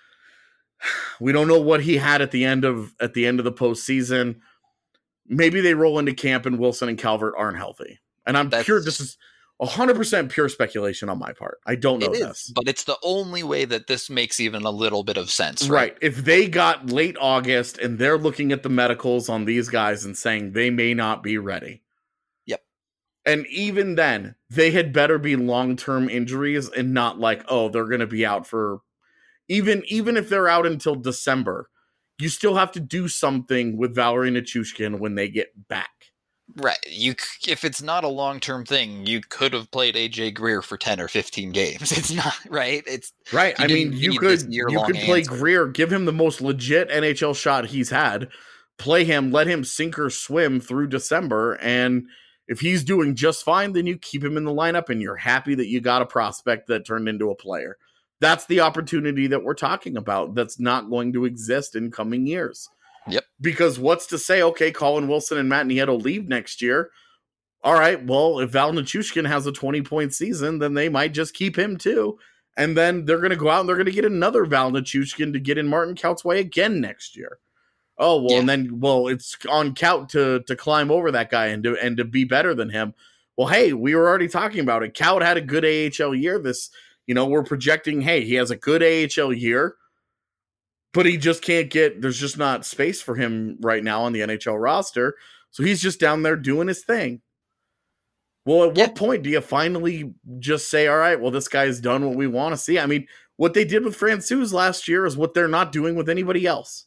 what he had at the end of the postseason. Maybe they roll into camp and Wilson and Calvert aren't healthy. And this is 100% pure speculation on my part. I don't know this. But it's the only way that this makes even a little bit of sense, right? If they got late August and they're looking at the medicals on these guys and saying they may not be ready. Yep. And even then, they had better be long-term injuries and not like, oh, they're going to be out for even if they're out until December. You still have to do something with Valeri Nichushkin when they get back. Right. If it's not a long-term thing, you could have played AJ Greer for 10 or 15 games. It's not, right? It's right. I mean, you could play Greer, give him the most legit NHL shot he's had, play him, let him sink or swim through December, and if he's doing just fine, then you keep him in the lineup and you're happy that you got a prospect that turned into a player. That's the opportunity that we're talking about that's not going to exist in coming years. Yep. Because what's to say, okay, Colin Wilson and Matt Nieto leave next year. All right, well, if Val Nichushkin has a 20-point season, then they might just keep him too. And then they're going to go out and they're going to get another Val Nichushkin to get in Martin Kaut's way again next year. Oh, well, yeah. And then, it's on Kaut to climb over that guy and to be better than him. Well, hey, we were already talking about it. Kaut had a good AHL year we're projecting, hey, he has a good AHL year, but he just can't there's just not space for him right now on the NHL roster. So he's just down there doing his thing. Well, at what point do you finally just say, all right, well, this guy's done what we want to see? I mean, what they did with Francouz last year is what they're not doing with anybody else.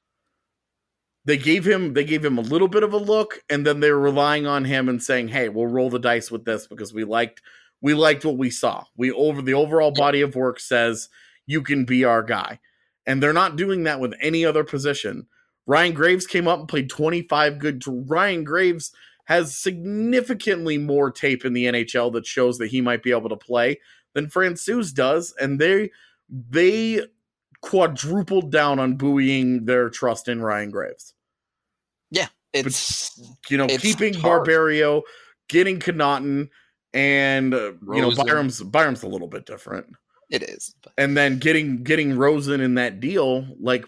They gave him a little bit of a look, and then they were relying on him and saying, hey, we'll roll the dice with this because we liked what we saw. The overall body of work says you can be our guy. And they're not doing that with any other position. Ryan Graves came up and played 25 good. Ryan Graves has significantly more tape in the NHL that shows that he might be able to play than Francouz does. And they quadrupled down on buoying their trust in Ryan Graves. Yeah. It's keeping hard. Barberio, getting Connaughton, and Byram's a little bit different. It is. And then getting Rosen in that deal, like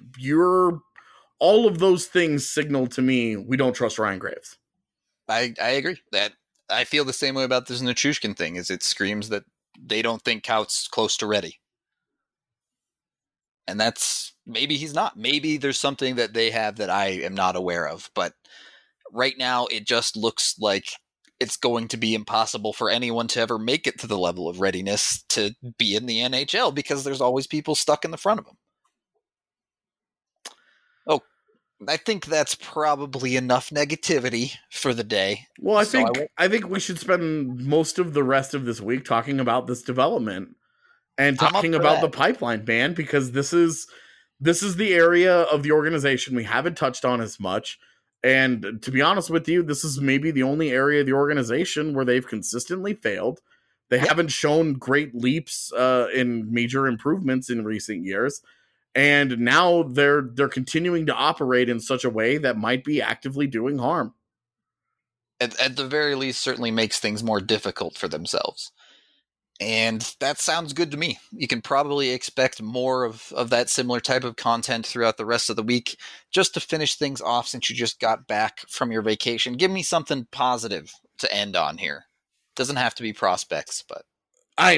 all of those things signal to me we don't trust Ryan Graves. I agree. That I feel the same way about this Nichushkin thing. Is it screams that they don't think Kaut's close to ready. And maybe he's not. Maybe there's something that they have that I am not aware of. But right now it just looks like it's going to be impossible for anyone to ever make it to the level of readiness to be in the NHL because there's always people stuck in the front of them. Oh, I think that's probably enough negativity for the day. Well, I think we should spend most of the rest of this week talking about this development and talking about the pipeline, man, because this is the area of the organization we haven't touched on as much. And to be honest with you, this is maybe the only area of the organization where they've consistently failed. They haven't shown great leaps in major improvements in recent years. And now they're continuing to operate in such a way that might be actively doing harm. At the very least, certainly makes things more difficult for themselves. And that sounds good to me. You can probably expect more of that similar type of content throughout the rest of the week. Just to finish things off, since you just got back from your vacation, give me something positive to end on here. Doesn't have to be prospects, but the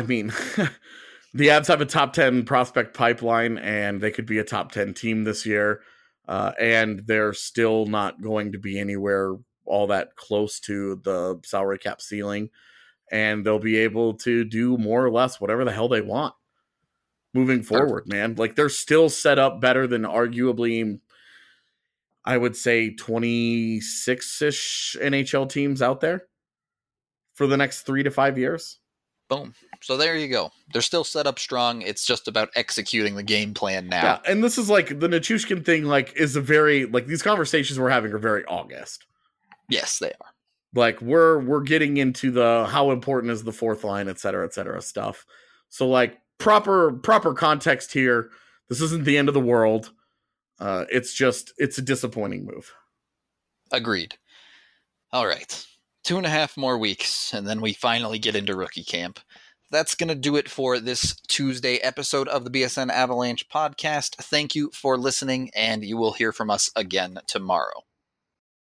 Avs have a top 10 prospect pipeline, and they could be a top 10 team this year. And they're still not going to be anywhere all that close to the salary cap ceiling. And they'll be able to do more or less whatever the hell they want moving forward, man. Like, they're still set up better than arguably, I would say, 26-ish NHL teams out there for the next 3 to 5 years. Boom. So there you go. They're still set up strong. It's just about executing the game plan now. Yeah, and this is like the Nichushkin thing, like, is a very, like, these conversations we're having are very August. Yes, they are. Like, we're getting into the how important is the fourth line, et cetera stuff. So, like, proper context here. This isn't the end of the world. It's a disappointing move. Agreed. All right. 2.5 more weeks, and then we finally get into rookie camp. That's going to do it for this Tuesday episode of the BSN Avalanche podcast. Thank you for listening, and you will hear from us again tomorrow.